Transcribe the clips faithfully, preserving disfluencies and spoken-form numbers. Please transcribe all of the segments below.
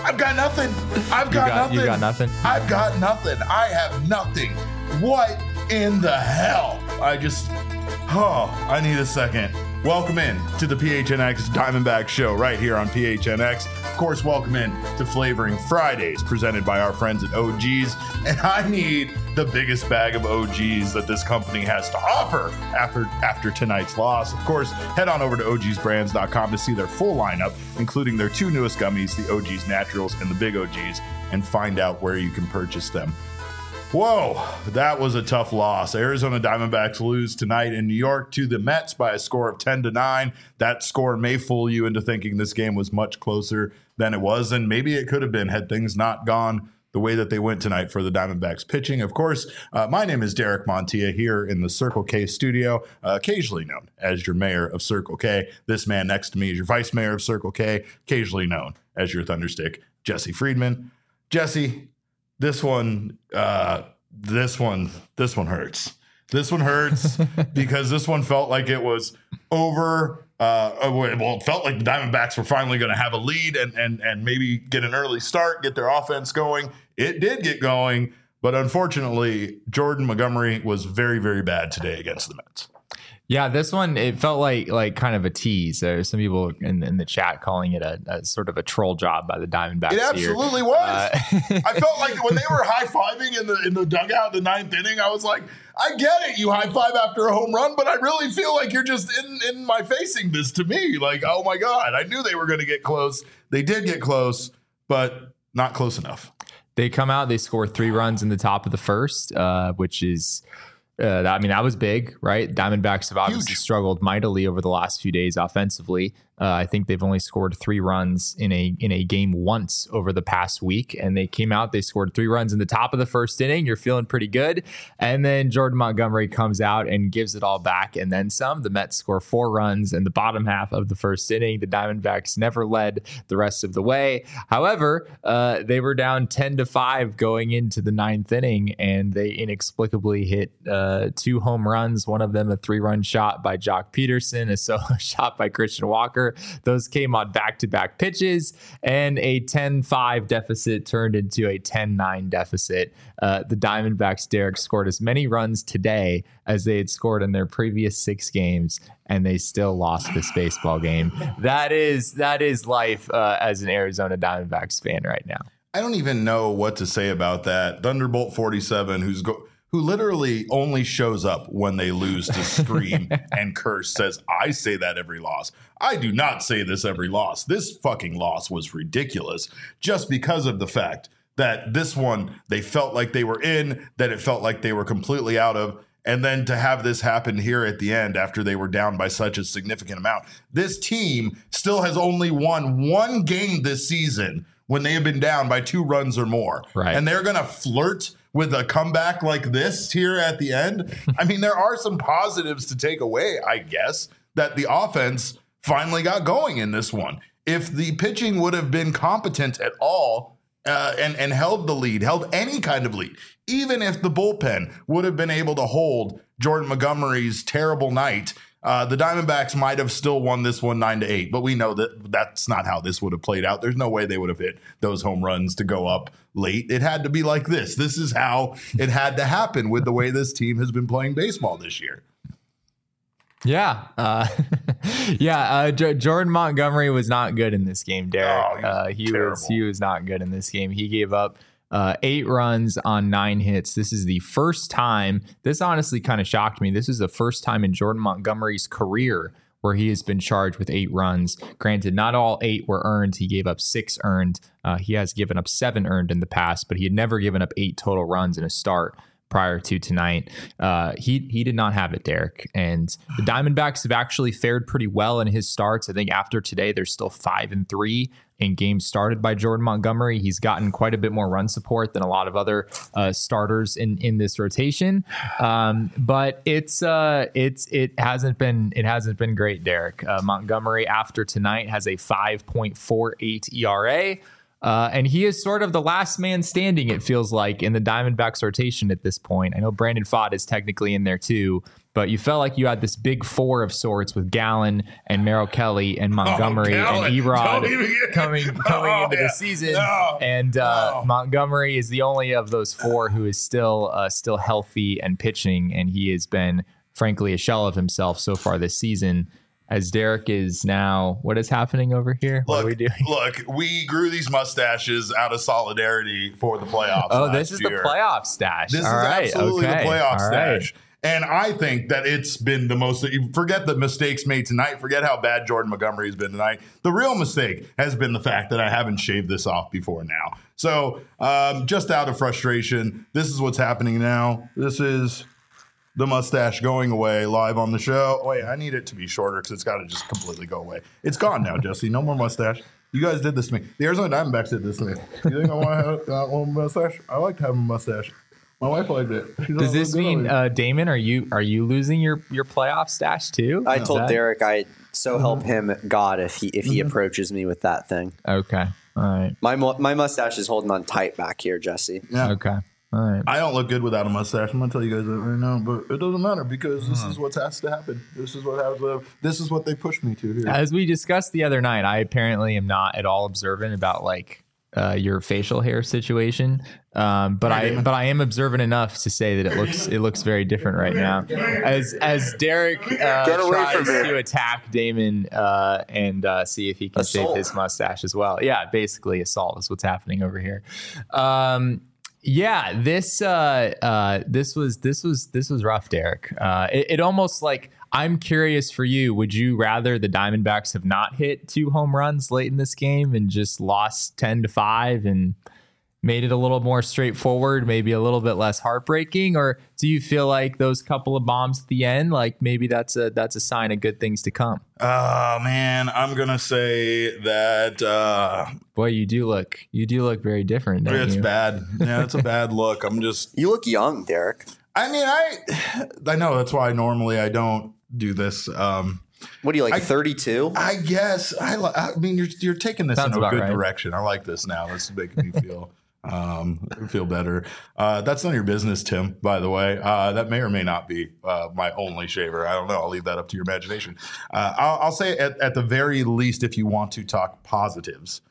I've got nothing. I've got, got nothing. You got nothing? I've got nothing. I have nothing. What in the hell? I just, oh, I need a second. Welcome in to the P H N X Diamondback Show right here on P H N X. Of course, welcome in to Flavoring Fridays presented by our friends at O G's. And I need the biggest bag of O G's that this company has to offer after, after tonight's loss. Of course, head on over to O Gs brands dot com to see their full lineup, including their two newest gummies, the O G's Naturals and the Big O G's, and find out where you can purchase them. Whoa, that was a tough loss. Arizona Diamondbacks lose tonight in New York to the Mets by a score of ten to nine. That score may fool you into thinking this game was much closer than it was, and maybe it could have been had things not gone the way that they went tonight for the Diamondbacks pitching. Of course, uh, my name is Derek Montilla here in the Circle K studio, uh, occasionally known as your mayor of Circle K. This man next to me is your vice mayor of Circle K, occasionally known as your Thunderstick, Jesse Friedman. Jesse, This one, uh, this one, this one hurts. This one hurts because this one felt like it was over. Uh, well, it felt like the Diamondbacks were finally going to have a lead and and and maybe get an early start, get their offense going. It did get going, but unfortunately, Jordan Montgomery was very, very bad today against the Mets. Yeah, this one, it felt like like kind of a tease. There's some people in, in the chat calling it a, a sort of a troll job by the Diamondbacks. It absolutely here. was. Uh, I felt like when they were high-fiving in the in the dugout in the ninth inning, I was like, I get it, you high-five after a home run, but I really feel like you're just in, in my facing this to me. Like, oh my God, I knew they were going to get close. They did get close, but not close enough. They come out, they score three runs in the top of the first, uh, which is... Uh, I mean, that was big, right? Diamondbacks have obviously Huge. struggled mightily over the last few days offensively. Uh, I think they've only scored three runs in a in a game once over the past week, and they came out, they scored three runs in the top of the first inning. You're feeling pretty good. And then Jordan Montgomery comes out and gives it all back and then some. The Mets score four runs in the bottom half of the first inning. The Diamondbacks never led the rest of the way. However, uh, they were down ten to five going into the ninth inning, and they inexplicably hit uh, two home runs, one of them a three-run shot by Jock Peterson, a solo shot by Christian Walker. Those came on back-to-back pitches, and a ten five deficit turned into a ten nine deficit. Uh, the Diamondbacks, Derek, scored as many runs today as they had scored in their previous six games, and they still lost this baseball game. That is that is life uh, as an Arizona Diamondbacks fan right now. I don't even know what to say about that. Thunderbolt forty-seven, who's go. who literally only shows up when they lose to scream and curse, says, I say that every loss. I do not say this every loss. This fucking loss was ridiculous just because of the fact that this one, they felt like they were in, that it felt like they were completely out of, and then to have this happen here at the end after they were down by such a significant amount. This team still has only won one game this season when they have been down by two runs or more. Right. And they're going to flirt with a comeback like this here at the end. I mean, there are some positives to take away, I guess, that the offense finally got going in this one. If the pitching would have been competent at all uh, and, and held the lead, held any kind of lead, even if the bullpen would have been able to hold Jordan Montgomery's terrible night, Uh, the Diamondbacks might have still won this one nine to eight, but we know that that's not how this would have played out. There's no way they would have hit those home runs to go up late. It had to be like this. This is how it had to happen with the way this team has been playing baseball this year. Yeah. Uh, yeah. Uh, J- Jordan Montgomery was not good in this game, Derek. Oh, uh, he was he was not good in this game. He gave up Uh, eight runs on nine hits. This is the first time. This honestly kind of shocked me. This is the first time in Jordan Montgomery's career where he has been charged with eight runs. Granted, not all eight were earned. He gave up six earned. Uh, he has given up seven earned in the past, but he had never given up eight total runs in a start prior to tonight. Uh, he he did not have it, Derek. And the Diamondbacks have actually fared pretty well in his starts. I think after today, they're still five and three in games started by Jordan Montgomery. He's gotten quite a bit more run support than a lot of other uh, starters in, in this rotation. Um, but it's uh, it's it hasn't been it hasn't been great, Derek. Uh, Montgomery after tonight has a five point four eight E R A. Uh, and he is sort of the last man standing, it feels like, in the Diamondbacks rotation at this point. I know Brandon Pfaadt is technically in there too, but you felt like you had this big four of sorts with Gallen and Merrill Kelly and Montgomery oh, and Erod coming coming oh, into yeah. the season. No. And uh, no. Montgomery is the only of those four who is still uh, still healthy and pitching, and he has been, frankly, a shell of himself so far this season. As Derek is now, what is happening over here? What look, are we doing? Look, we grew these mustaches out of solidarity for the playoffs. Oh, this is year. the playoff stash. This All is right, absolutely okay. the playoff All stash. Right. And I think that it's been the most, forget the mistakes made tonight. Forget how bad Jordan Montgomery has been tonight. The real mistake has been the fact that I haven't shaved this off before now. So um, just out of frustration, this is what's happening now. This is the mustache going away live on the show. Wait, I need it to be shorter because it's got to just completely go away. It's gone now, Jesse. No more mustache. You guys did this to me. The Arizona Diamondbacks did this to me. You think I want to have a little mustache? I like to have a mustache. My wife liked it. Does this mean, uh, Damon, are you are you losing your, your playoff stash too? I Is told that... Derek I so help him God if he if he mm-hmm. approaches me with that thing. Okay, all right. My my mustache is holding on tight back here, Jesse. Yeah. Okay. All right. I don't look good without a mustache. I'm gonna tell you guys that right now, but it doesn't matter because this is what has to happen. This is what has to, This is what they pushed me to here. As we discussed the other night, I apparently am not at all observant about like uh, your facial hair situation, um, but I but I am observant enough to say that it looks it looks very different right now. As as Derek uh, tries to attack Damon uh, and uh, see if he can assault. Save his mustache as well. Yeah, basically assault is what's happening over here. Um, Yeah, this uh, uh, this was this was this was rough, Derek. Uh, it, it almost like I'm curious for you. Would you rather the Diamondbacks have not hit two home runs late in this game and just lost ten to five and made it a little more straightforward, maybe a little bit less heartbreaking, or do you feel like those couple of bombs at the end, like maybe that's a that's a sign of good things to come? Oh man, I'm gonna say that. Uh, Boy, you do look you do look very different. Don't it's you? bad. Yeah, it's a bad look. I'm just. You look young, Derek. I mean, I I know that's why normally I don't do this. Um, what do you like, thirty-two? I guess. I I mean, you're you're taking this Sounds in a good right. direction. I like this now. This is making me feel. Um, feel better. Uh, that's none of your business, Tim, by the way. Uh, that may or may not be uh, my only shaver. I don't know. I'll leave that up to your imagination. Uh, I'll, I'll say at, at the very least, if you want to talk positives,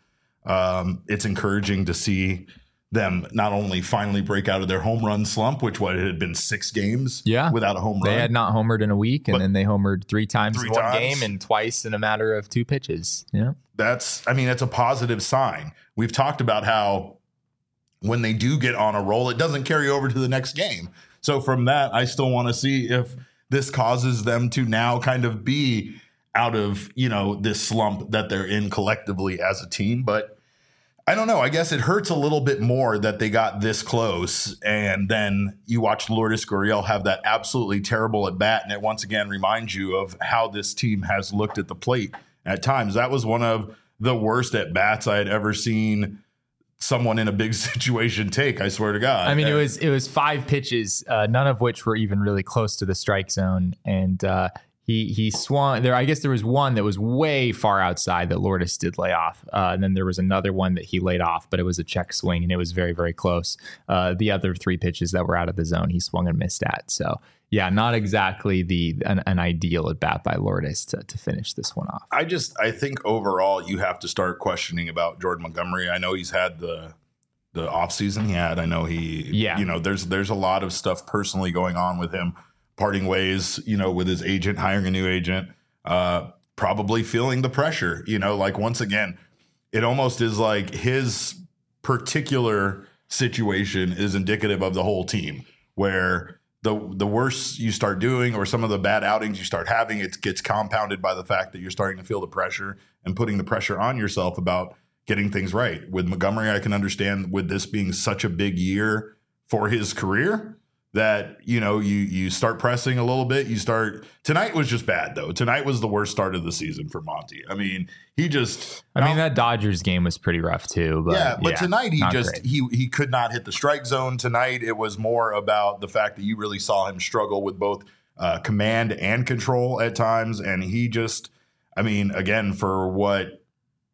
um, it's encouraging to see them not only finally break out of their home run slump, which what it had been six games yeah. without a home run. They had not homered in a week, and but then they homered three times three in one times. game and twice in a matter of two pitches. Yeah. That's, I mean, that's a positive sign. We've talked about how when they do get on a roll, it doesn't carry over to the next game. So from that, I still want to see if this causes them to now kind of be out of, you know, this slump that they're in collectively as a team. But I don't know. I guess it hurts a little bit more that they got this close. And then you watch Lourdes Gurriel have that absolutely terrible at bat. And it once again reminds you of how this team has looked at the plate at times. That was one of the worst at bats I had ever seen someone in a big situation take, I swear to God. I mean, it was it was five pitches, uh, none of which were even really close to the strike zone. And uh, he he swung there. I guess there was one that was way far outside that Lourdes did lay off. Uh, and then there was another one that he laid off, but it was a check swing and it was very, very close. Uh, the other three pitches that were out of the zone, he swung and missed at. So yeah, not exactly the an, an ideal at bat by Lourdes to, to finish this one off. I just I think overall you have to start questioning about Jordan Montgomery. I know he's had the the offseason he had. I know he yeah. you know, there's there's a lot of stuff personally going on with him, parting ways, you know, with his agent, hiring a new agent, uh, probably feeling the pressure, you know, like once again, it almost is like his particular situation is indicative of the whole team, where the the worse you start doing or some of the bad outings you start having, it gets compounded by the fact that you're starting to feel the pressure and putting the pressure on yourself about getting things right. With Montgomery, I can understand with this being such a big year for his career that, you know, you you start pressing a little bit. You start tonight was just bad, though. Tonight was the worst start of the season for Monty. I mean, he just I mean, that Dodgers game was pretty rough, too. But yeah, but yeah, tonight he just great. he he could not hit the strike zone tonight. It was more about the fact that you really saw him struggle with both uh, command and control at times. And he just I mean, again, for what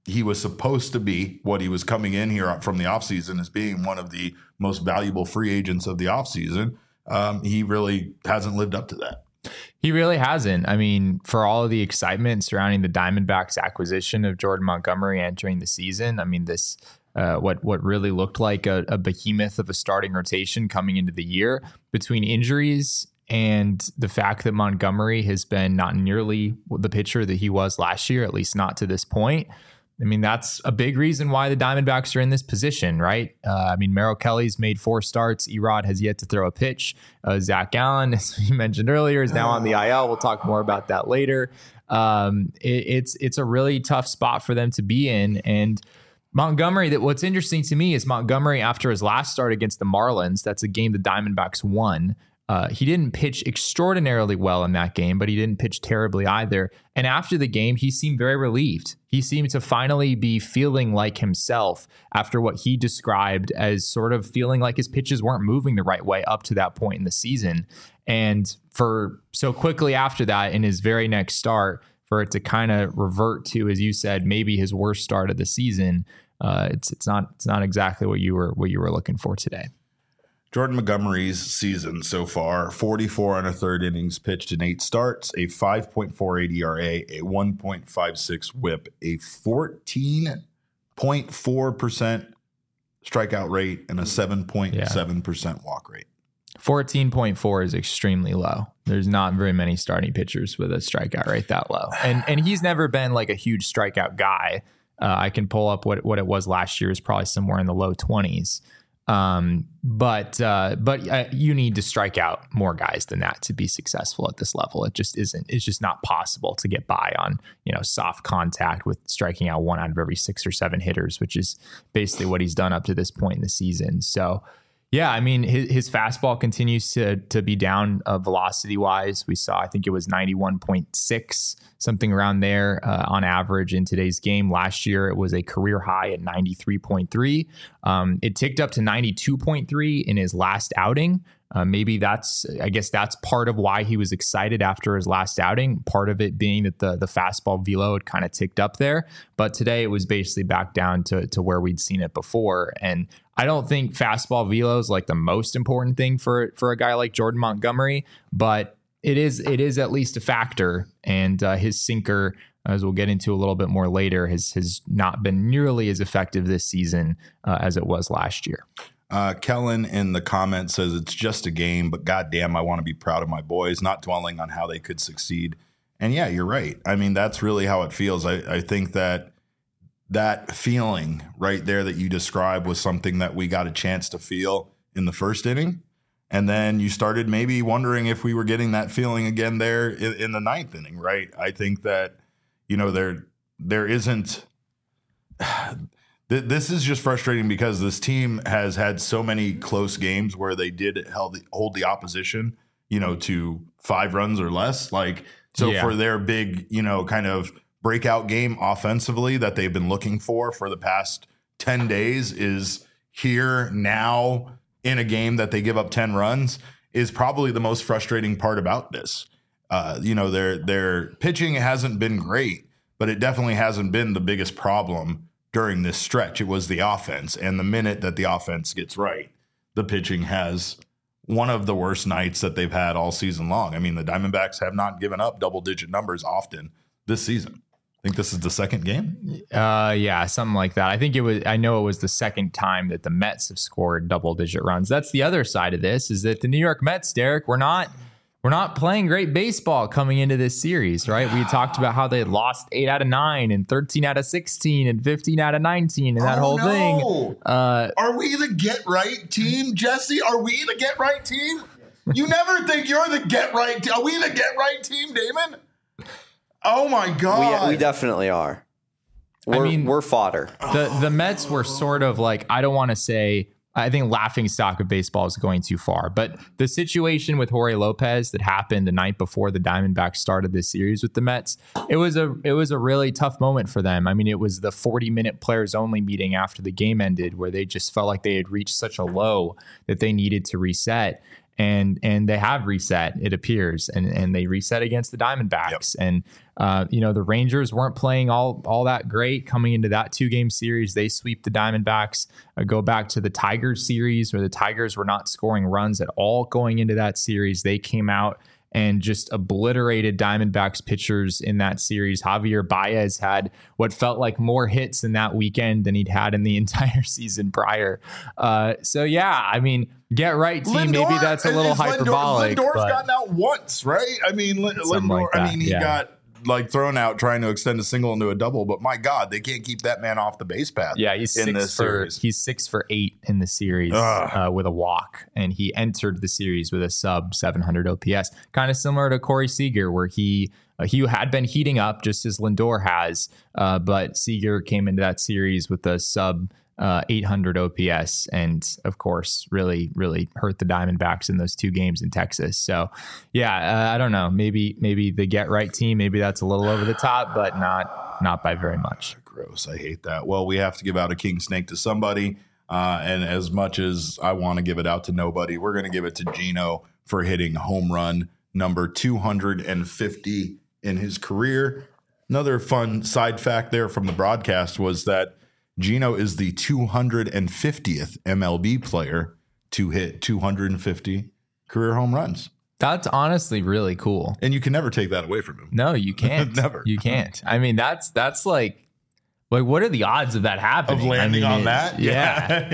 he was supposed to be, what he was coming in here from the offseason as being one of the most valuable free agents of the offseason, um, he really hasn't lived up to that. He really hasn't. I mean, for all of the excitement surrounding the Diamondbacks acquisition of Jordan Montgomery entering the season, I mean, this uh, what what really looked like a, a behemoth of a starting rotation coming into the year, between injuries and the fact that Montgomery has been not nearly the pitcher that he was last year, at least not to this point. I mean, that's a big reason why the Diamondbacks are in this position, right? Uh, I mean, Merrill Kelly's made four starts. Erod has yet to throw a pitch. Uh, Zach Allen, as we mentioned earlier, is now on the I L. We'll talk more about that later. Um, it, it's it's a really tough spot for them to be in. And Montgomery, that what's interesting to me is Montgomery, after his last start against the Marlins, that's a game the Diamondbacks won. Uh, he didn't pitch extraordinarily well in that game, but he didn't pitch terribly either. And after the game, he seemed very relieved. He seemed to finally be feeling like himself after what he described as sort of feeling like his pitches weren't moving the right way up to that point in the season. And for so quickly after that, in his very next start, for it to kind of revert to, as you said, maybe his worst start of the season, uh, it's it's not it's not exactly what you were what you were looking for today. Jordan Montgomery's season so far, forty-four and a third innings pitched in eight starts, a five point four eight E R A, a one point five six whip, a fourteen point four percent strikeout rate, and a seven point seven percent walk rate. fourteen point four is extremely low. There's not very many starting pitchers with a strikeout rate that low. And and he's never been like a huge strikeout guy. Uh, I can pull up what, what it was last year, is probably somewhere in the low twenties. Um, but, uh, but uh, you need to strike out more guys than that to be successful at this level. It just isn't, it's just not possible to get by on, you know, soft contact with striking out one out of every six or seven hitters, which is basically what he's done up to this point in the season. So yeah, I mean, his, his fastball continues to to be down uh, velocity wise. We saw, I think it was ninety-one point six, something around there uh, on average in today's game. Last year, it was a career high at ninety-three point three. Um, it ticked up to ninety-two point three in his last outing. Uh, maybe that's, I guess that's part of why he was excited after his last outing. Part of it being that the the fastball velo had kind of ticked up there. But today it was basically back down to, to where we'd seen it before. And I don't think fastball velo is like the most important thing for, for a guy like Jordan Montgomery, but it is, it is at least a factor. And uh, his sinker, as we'll get into a little bit more later, has, has not been nearly as effective this season uh, as it was last year. Uh, Kellen in the comments says it's just a game, but goddamn, I want to be proud of my boys, not dwelling on how they could succeed. And yeah, you're right. I mean, that's really how it feels. I, I think that that feeling right there that you described was something that we got a chance to feel in the first inning. And then you started maybe wondering if we were getting that feeling again there in, in the ninth inning, right? I think that, you know, there there isn't this is just frustrating because this team has had so many close games where they did held the, hold the opposition, you know, to five runs or less. Like, so yeah. For their big, you know, kind of breakout game offensively that they've been looking for for the past ten days is here now in a game that they give up ten runs is probably the most frustrating part about this. Uh, you know, their their pitching hasn't been great, but it definitely hasn't been the biggest problem during this stretch. It was the offense. And the minute that the offense gets right, the pitching has one of the worst nights that they've had all season long. I mean, the Diamondbacks have not given up double-digit numbers often this season. I think this is the second game. Uh, yeah, something like that. I think it was, I know it was the second time that the Mets have scored double-digit runs. That's the other side of this, is that the New York Mets, Derek, we're not... We're not playing great baseball coming into this series, right? We talked about how they had lost eight out of nine and thirteen out of sixteen and fifteen out of nineteen and that oh, whole no. thing. Uh, Are we the get right team, Jesse? Are we the get right team? You never think you're the get right team. Are we the get right team, Damon? Oh my God. We, we definitely are. We're, I mean, we're fodder. The, the Mets were sort of like, I don't want to say, I think laughing stock of baseball is going too far. But the situation with Jorge Lopez that happened the night before the Diamondbacks started this series with the Mets, it was a it was a really tough moment for them. I mean, it was the forty-minute players only meeting after the game ended where they just felt like they had reached such a low that they needed to reset. and and they have reset, it appears, and and they reset against the Diamondbacks. Yep. And uh, you know, the Rangers weren't playing all all that great coming into that two game series. They sweep the Diamondbacks. Uh, go back to the Tigers series where the Tigers were not scoring runs at all going into that series. They came out and just obliterated Diamondbacks pitchers in that series. Javier Baez had what felt like more hits in that weekend than he'd had in the entire season prior. Uh, so yeah, I mean, get right team. Lindor, maybe that's a little hyperbolic. Lindor's but gotten out once, right? I mean, Lindor. Like I mean, he yeah. got like thrown out trying to extend a single into a double, but my God, they can't keep that man off the base path. Yeah, he's in six this for series. he's six for eight in the series uh, with a walk, and he entered the series with a sub seven hundred O P S, kind of similar to Corey Seager, where he uh, he had been heating up just as Lindor has, uh, but Seager came into that series with a sub uh, eight hundred O P S, and of course, really, really hurt the Diamondbacks in those two games in Texas. So, yeah, uh, I don't know. Maybe, maybe the get right team. Maybe that's a little over the top, but not, not by very much. Gross. I hate that. Well, we have to give out a king snake to somebody, uh, and as much as I want to give it out to nobody, we're going to give it to Gino for hitting home run number two hundred fifty in his career. Another fun side fact there from the broadcast was that Gino is the two hundred fiftieth M L B player to hit two hundred fifty career home runs. That's honestly really cool. And you can never take that away from him. No, you can't. Never. You can't. I mean, that's that's like, like what are the odds of that happening? Of landing I mean, on it, that? Yeah.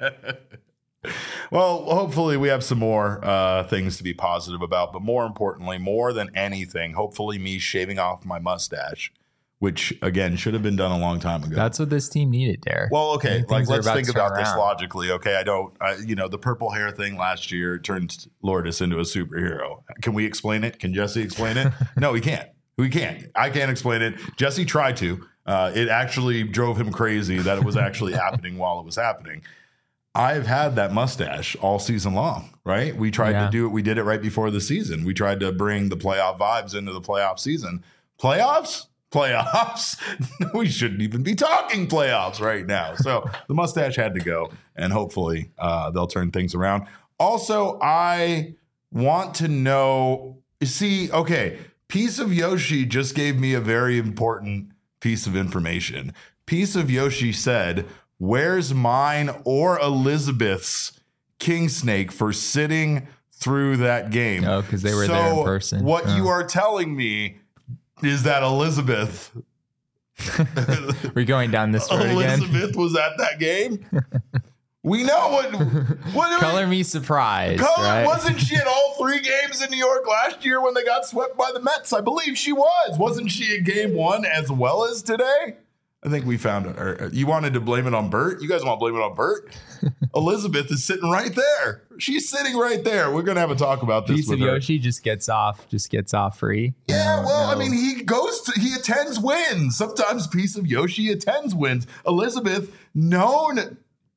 yeah. Well, hopefully we have some more uh, things to be positive about. But more importantly, more than anything, hopefully me shaving off my mustache, which, again, should have been done a long time ago. That's what this team needed, Derek. Well, okay, like Things are let's about think to turn about this around. logically. Okay, I don't, I, you know, the purple hair thing last year turned Lourdes into a superhero. Can we explain it? Can Jesse explain it? No, we can't. We can't. I can't explain it. Jesse tried to. Uh, it actually drove him crazy that it was actually happening while it was happening. I've had that mustache all season long, right? We tried Yeah. to do it. We did it right before the season. We tried to bring the playoff vibes into the playoff season. Playoffs? Playoffs? We shouldn't even be talking playoffs right now. So the mustache had to go, and hopefully uh, they'll turn things around. Also, I want to know, see, okay, Piece of Yoshi just gave me a very important piece of information. Piece of Yoshi said, where's mine or Elizabeth's king snake for sitting through that game? Oh, because they were so there in person. What Oh. you are telling me is that Elizabeth We're going down this road again. Elizabeth was at that game? We know what what Color me surprised. Color, right? wasn't she at all three games in New York last year when they got swept by the Mets? I believe she was. Wasn't she at game one as well as today? I think we found it. Or, you wanted to blame it on Bert? You guys want to blame it on Bert? Elizabeth is sitting right there. She's sitting right there. We're going to have a talk about this Piece with of her. Yoshi just gets off, just gets off free. Yeah, No, well, I no. mean, he goes to, he attends wins. Sometimes Piece of Yoshi attends wins. Elizabeth, known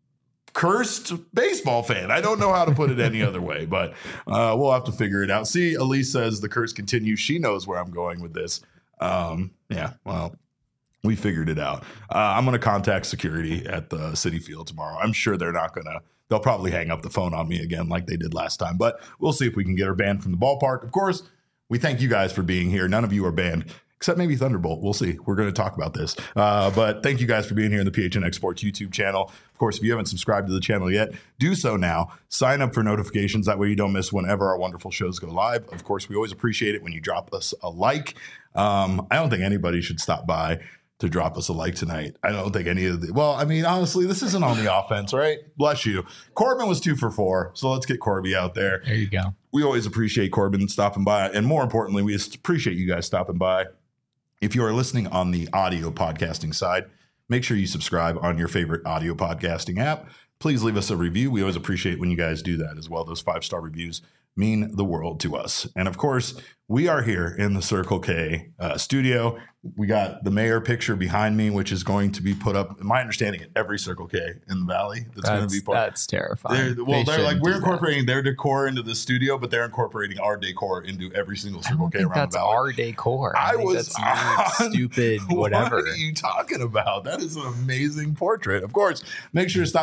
cursed baseball fan. I don't know how to put it any other way, but uh, we'll have to figure it out. See, Elise says the curse continues. She knows where I'm going with this. Um, yeah, well, we figured it out. Uh, I'm going to contact security at the Citi Field tomorrow. I'm sure they're not going to. They'll probably hang up the phone on me again like they did last time, but we'll see if we can get her banned from the ballpark. Of course, we thank you guys for being here. None of you are banned, except maybe Thunderbolt. We'll see. We're going to talk about this. Uh, but thank you guys for being here in the P H N X Sports YouTube channel. Of course, if you haven't subscribed to the channel yet, do so now. Sign up for notifications. That way you don't miss whenever our wonderful shows go live. Of course, we always appreciate it when you drop us a like. Um, I don't think anybody should stop by to drop us a like tonight. I don't think any of the, well, I mean, honestly, this isn't on the offense, right? Bless you. Corbin was two for four, so let's get Corby out there. There you go. We always appreciate Corbin stopping by, and more importantly, we just appreciate you guys stopping by. If you are listening on the audio podcasting side, make sure you subscribe on your favorite audio podcasting app. Please leave us a review. We always appreciate when you guys do that as well. Those five-star reviews mean the world to us. And of course, we are here in the Circle K uh, studio. We got the mayor picture behind me, which is going to be put up, in my understanding, at every Circle K in the Valley. That's, going to be That's, part. that's terrifying. They're, well, They they're like, shouldn't we're do that. incorporating their decor into the studio, but they're incorporating our decor into every single I Circle don't K think around that's the Valley. our decor. I, I think was that's your on- stupid whatever. What are you talking about? That is an amazing portrait. Of course, make sure to stop by Circle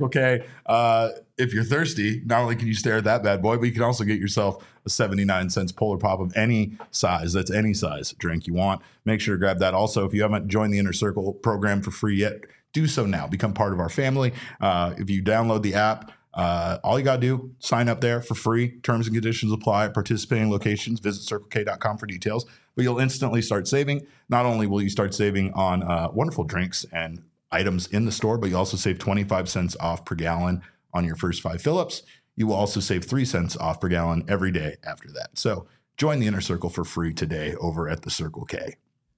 Circle K. Uh, if you're thirsty, not only can you stare at that bad boy, but you can also get yourself a seventy-nine cents Polar Pop of any size. That's any size drink you want. Make sure to grab that. Also, if you haven't joined the Inner Circle program for free yet, do so now. Become part of our family. Uh, if you download the app, uh, all you got to do, sign up there for free. Terms and conditions apply at participating locations. Visit circle k dot com for details. But you'll instantly start saving. Not only will you start saving on uh, wonderful drinks and items in the store, but you also save twenty-five cents off per gallon on your first five fill-ups. You will also save three cents off per gallon every day after that. So join the Inner Circle for free today over at the Circle K.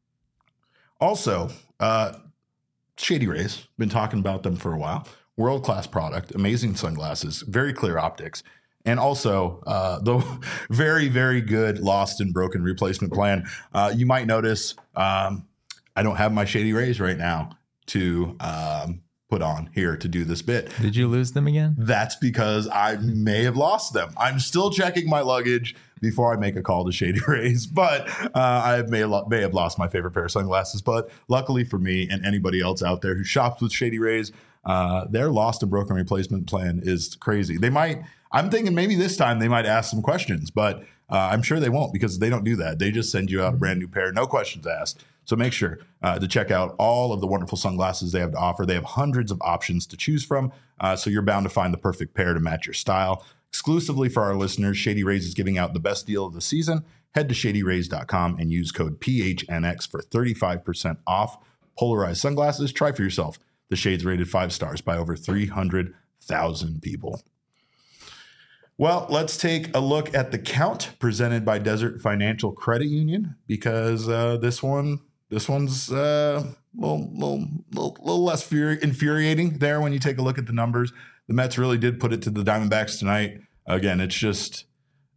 Also, uh, Shady Rays, been talking about them for a while. World-class product, amazing sunglasses, very clear optics, and also uh, the very, very good lost and broken replacement plan. Uh, you might notice um, I don't have my Shady Rays right now to um, put on here to do this bit. Did you lose them again? That's because I may have lost them. I'm still checking my luggage before I make a call to Shady Rays, but uh, I may, may have lost my favorite pair of sunglasses. But luckily for me and anybody else out there who shops with Shady Rays, uh, their lost and broken replacement plan is crazy. They might, I'm thinking maybe this time they might ask some questions, but uh, I'm sure they won't because they don't do that. They just send you out a brand new pair, no questions asked. So make sure uh, to check out all of the wonderful sunglasses they have to offer. They have hundreds of options to choose from, uh, so you're bound to find the perfect pair to match your style. Exclusively for our listeners, Shady Rays is giving out the best deal of the season. Head to shady rays dot com and use code P H N X for thirty-five percent off polarized sunglasses. Try for yourself. The shades rated five stars by over three hundred thousand people. Well, let's take a look at the count presented by Desert Financial Credit Union because uh, this one, this one's uh, a little, little, little, little less furi- infuriating there when you take a look at the numbers. The Mets really did put it to the Diamondbacks tonight. Again, it's just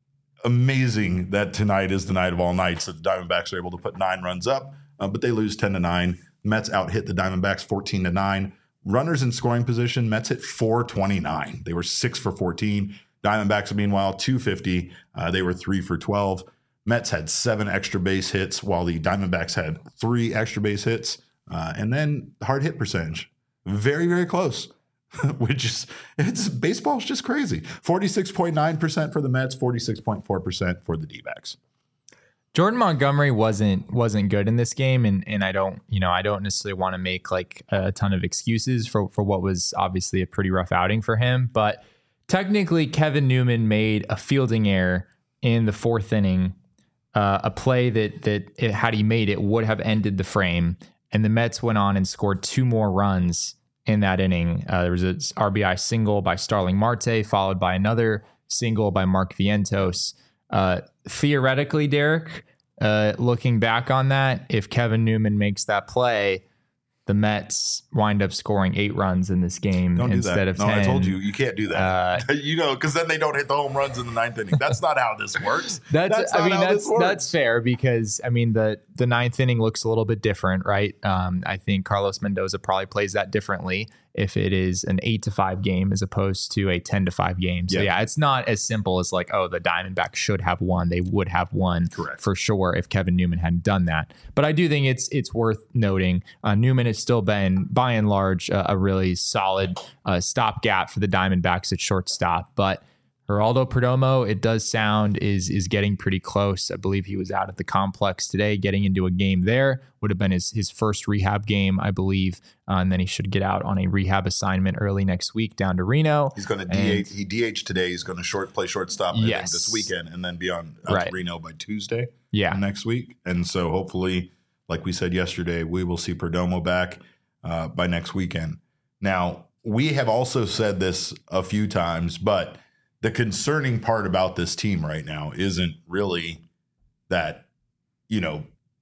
amazing that tonight is the night of all nights that the Diamondbacks are able to put nine runs up, uh, but they lose ten to nine. The Mets out hit the Diamondbacks fourteen to nine. Runners in scoring position, Mets hit four twenty-nine. They were six for fourteen. Diamondbacks, meanwhile, two fifty. Uh, they were three for twelve. Mets had seven extra base hits, while the Diamondbacks had three extra base hits. Uh, and then hard hit percentage, very, very close, which is, it's baseball's just crazy. forty-six point nine percent for the Mets, forty-six point four percent for the D-backs. Jordan Montgomery wasn't wasn't good in this game, and and I don't you know I don't necessarily want to make like a ton of excuses for for what was obviously a pretty rough outing for him, but technically Kevin Newman made a fielding error in the fourth inning, uh, a play that that it, had he made it would have ended the frame, and the Mets went on and scored two more runs in that inning. Uh, there was an R B I single by Starling Marte, followed by another single by Mark Vientos. Uh, theoretically, Derek, uh, looking back on that, if Kevin Newman makes that play, the Mets wind up scoring eight runs in this game don't instead do of no, ten. I told you, you can't do that. Uh, you know, because then they don't hit the home runs in the ninth inning. That's not how this works. That's, that's I not mean, how that's this works. that's fair because I mean the the ninth inning looks a little bit different, right? Um, I think Carlos Mendoza probably plays that differently if it is an eight to five game as opposed to a ten to five game. So yeah, yeah it's not as simple as like, oh, the Diamondbacks should have won. They would have won Correct. for sure if Kevin Newman hadn't done that. But I do think it's it's worth noting uh, Newman has still been by and large uh, a really solid uh, stopgap for the Diamondbacks at shortstop, but Geraldo Perdomo, it does sound, is is getting pretty close. I believe he was out at the complex today, getting into a game there. Would have been his, his first rehab game, I believe. Uh, and then he should get out on a rehab assignment early next week down to Reno. He's going to D H. He D H today. He's going to short play shortstop I yes. think, this weekend and then be on out right. to Reno by Tuesday yeah. next week. And so hopefully, like we said yesterday, we will see Perdomo back uh, by next weekend. Now, we have also said this a few times, but the concerning part about this team right now isn't really that, you know,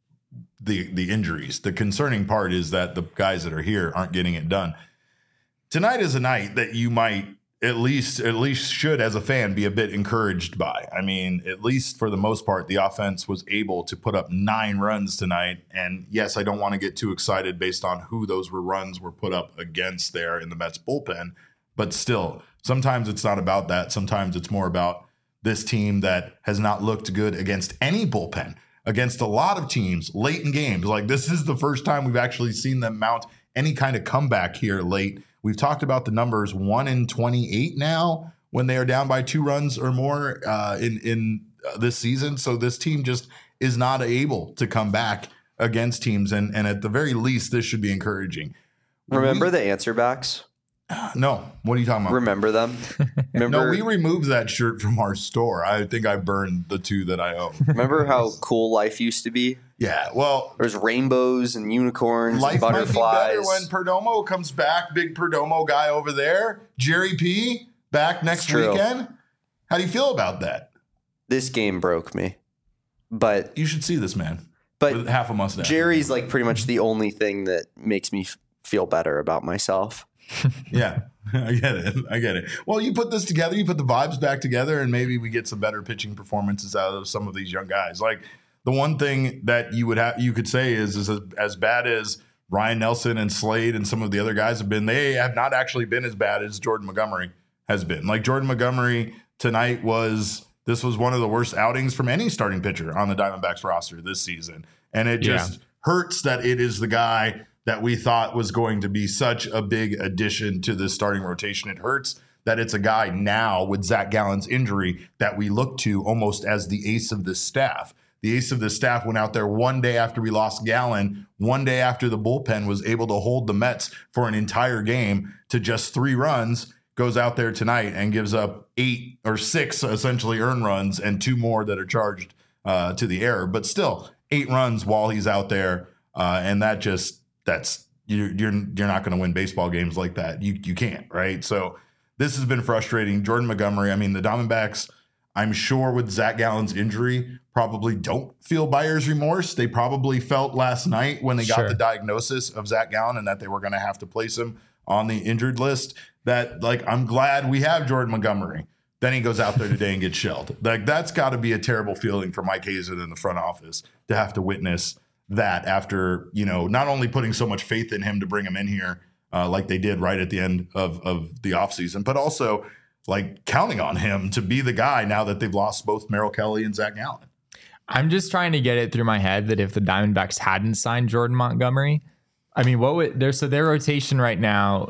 the the injuries. The concerning part is that the guys that are here aren't getting it done. Tonight is a night that you might at least at least should, as a fan, be a bit encouraged by. I mean, at least for the most part, the offense was able to put up nine runs tonight. And yes, I don't want to get too excited based on who those were runs were put up against there in the Mets bullpen, but still. Sometimes it's not about that. Sometimes it's more about this team that has not looked good against any bullpen, against a lot of teams late in games. Like, this is the first time we've actually seen them mount any kind of comeback here late. We've talked about the numbers one in twenty-eight now when they are down by two runs or more uh, in, in this season. So this team just is not able to come back against teams. And, and at the very least, this should be encouraging. Remember we, the answer backs? No. What are you talking about? Remember them? Remember, no, we removed that shirt from our store. I think I burned the two that I own. Remember how cool life used to be? Yeah, well, there's rainbows and unicorns life and butterflies. Might be better when Perdomo comes back. Big Perdomo guy over there. Jerry P back next weekend. How do you feel about that? This game broke me. But you should see this man. But with half a mustache. Jerry's like pretty much the only thing that makes me f- feel better about myself. Yeah, I get it. I get it. Well, you put this together, you put the vibes back together, and maybe we get some better pitching performances out of some of these young guys. Like the one thing that you would have, you could say is, is as, as bad as Ryan Nelson and Slade and some of the other guys have been, they have not actually been as bad as Jordan Montgomery has been. Like Jordan Montgomery tonight was, this was one of the worst outings from any starting pitcher on the Diamondbacks roster this season. And it just yeah. hurts that it is the guy that we thought was going to be such a big addition to the starting rotation. It hurts that it's a guy now with Zach Gallen's injury that we look to almost as the ace of the staff. The ace of the staff went out there one day after we lost Gallen, one day after the bullpen was able to hold the Mets for an entire game to just three runs, goes out there tonight and gives up eight or six essentially earned runs and two more that are charged uh, to the error. But still, eight runs while he's out there, uh, and that just that's you're you're you're not going to win baseball games like that. You you can't, right? So this has been frustrating. Jordan Montgomery. I mean, the Diamondbacks, I'm sure with Zach Gallen's injury, probably don't feel buyer's remorse. They probably felt last night when they got sure. the diagnosis of Zach Gallen and that they were going to have to place him on the injured list. That like I'm glad we have Jordan Montgomery. Then he goes out there today and gets shelled. Like that's got to be a terrible feeling for Mike Hazen in the front office to have to witness that after, you know, not only putting so much faith in him to bring him in here uh, like they did right at the end of, of the offseason, but also like counting on him to be the guy now that they've lost both Merrill Kelly and Zach Gallen. I'm just trying to get it through my head that if the Diamondbacks hadn't signed Jordan Montgomery, I mean, what would their so their rotation right now?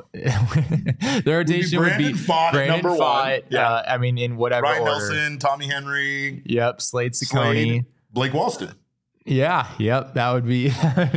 Their rotation would be Brandon, would be Pfaadt, Brandon number Pfaadt, one. Yeah. Uh, I mean, in whatever Ryan order. Nelson, Tommy Henry. Yep, Slade Ciccone, Slade, Blake Walston. Yeah, yep, that would be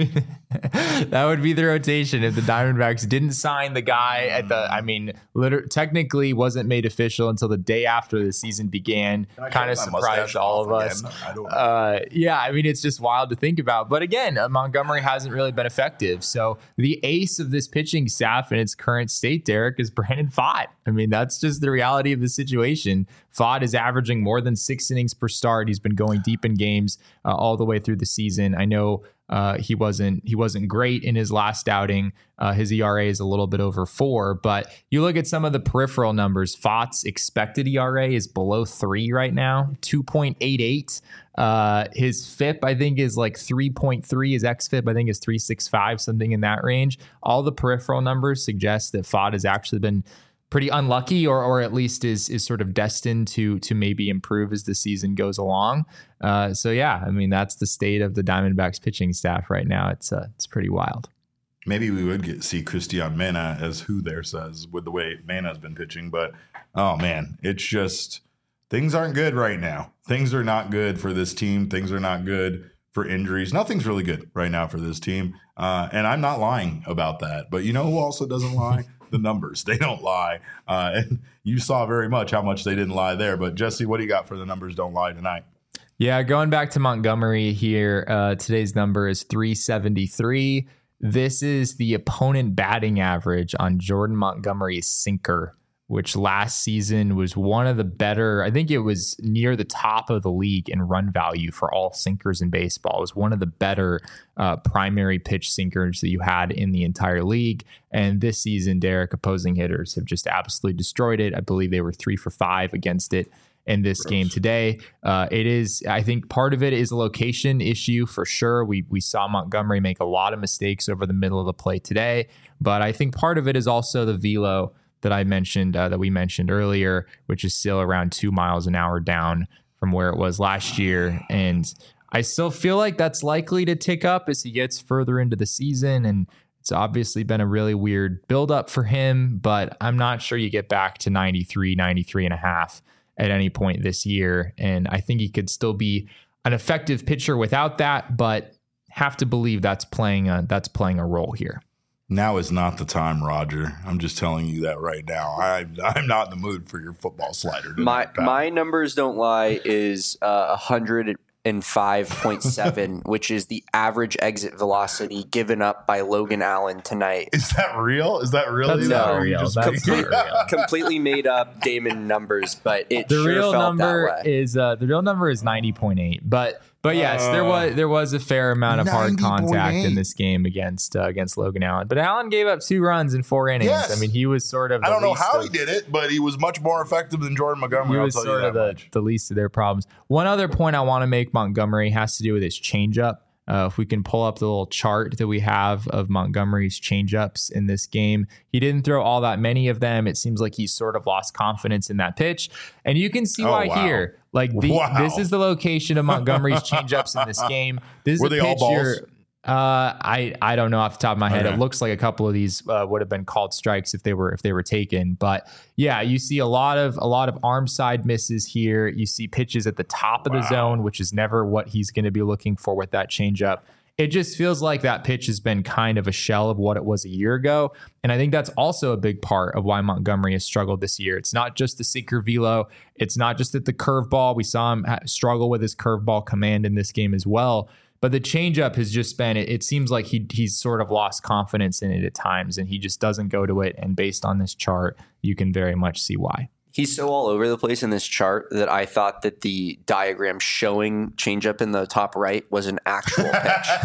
that would be the rotation if the Diamondbacks didn't sign the guy at the. I mean, liter- technically wasn't made official until the day after the season began. Kind of surprised all of us. I don't know. Uh, yeah, I mean, it's just wild to think about. But again, uh, Montgomery hasn't really been effective. So the ace of this pitching staff in its current state, Derek, is Brandon Pfaadt. I mean, that's just the reality of the situation. Pfaadt is averaging more than six innings per start. He's been going deep in games uh, all the way through the season. I know uh, he wasn't he wasn't great in his last outing. Uh, his E R A is a little bit over four, but you look at some of the peripheral numbers. Pfaadt's expected E R A is below three right now, two point eight eight. Uh, his F I P, I think, is like three point three. His X F I P, I think, is three point six five, something in that range. All the peripheral numbers suggest that Pfaadt has actually been pretty unlucky, or or at least is is sort of destined to to maybe improve as the season goes along. Uh, so yeah, I mean that's the state of the Diamondbacks pitching staff right now. It's uh, it's pretty wild. Maybe we would get see Cristian Mena as who there says with the way Mena's been pitching, but oh man, it's just things aren't good right now. Things are not good for this team. Things are not good for injuries. Nothing's really good right now for this team, uh, and I'm not lying about that. But you know who also doesn't lie? The numbers. They don't lie. Uh, and you saw very much how much they didn't lie there. But Jesse, what do you got for the numbers don't lie tonight? Yeah, going back to Montgomery here, uh, today's number is three seventy-three. This is the opponent batting average on Jordan Montgomery's sinker, which last season was one of the better. I think it was near the top of the league in run value for all sinkers in baseball. It was one of the better uh, primary pitch sinkers that you had in the entire league. And this season, Derek, opposing hitters have just absolutely destroyed it. I believe they were three for five against it in this Gross. game today. Uh, it is, I think part of it is a location issue for sure. We we saw Montgomery make a lot of mistakes over the middle of the plate today, but I think part of it is also the velo that I mentioned, uh, that we mentioned earlier, which is still around two miles an hour down from where it was last year. And I still feel like that's likely to tick up as he gets further into the season. And It's obviously been a really weird buildup for him, but I'm not sure you get back to ninety-three, ninety-three and a half at any point this year. And I think he could still be an effective pitcher without that, but have to believe that's playing a, that's playing a role here. Now is not the time, Roger. I'm just telling you that right now. I, I'm not in the mood for your football slider tonight, My pal. my numbers don't lie is uh, one hundred five point seven, which is the average exit velocity given up by Logan Allen tonight. Is that real? Is that really? That's that not or you real. just- That's Complete- not real. completely made up Damon numbers, but it The sure real felt number that way. is uh, the real number is ninety point eight, but but yes, there was there was a fair amount of hard ninety point eight. contact in this game against uh, against Logan Allen. But Allen gave up two runs in four innings. Yes. I mean, he was sort of. The I don't know least how of, he did it, but he was much more effective than Jordan Montgomery. He I'll was tell sort you of that the, much. the least of their problems. One other point I want to make Montgomery has to do with his changeup. Uh, if we can pull up the little chart that we have of Montgomery's changeups in this game, he didn't throw all that many of them. It seems like he's sort of lost confidence in that pitch, and you can see Oh, why wow. here. Like the, Wow. this is the location of Montgomery's changeups in this game. This is Were a they all pitch balls? you're- Uh, I I don't know off the top of my head. Okay. It looks like a couple of these uh, would have been called strikes if they were if they were taken. But yeah, you see a lot of a lot of arm side misses here. You see pitches at the top of the Wow. zone, which is never what he's going to be looking for with that changeup. It just feels like that pitch has been kind of a shell of what it was a year ago. And I think that's also a big part of why Montgomery has struggled this year. It's not just the sinker velo. It's not just that the curveball. We saw him ha- struggle with his curveball command in this game as well. But the changeup has just been, it, it seems like he he's sort of lost confidence in it at times, and he just doesn't go to it. And based on this chart, you can very much see why. He's so all over the place in this chart that I thought that the diagram showing changeup in the top right was an actual pitch.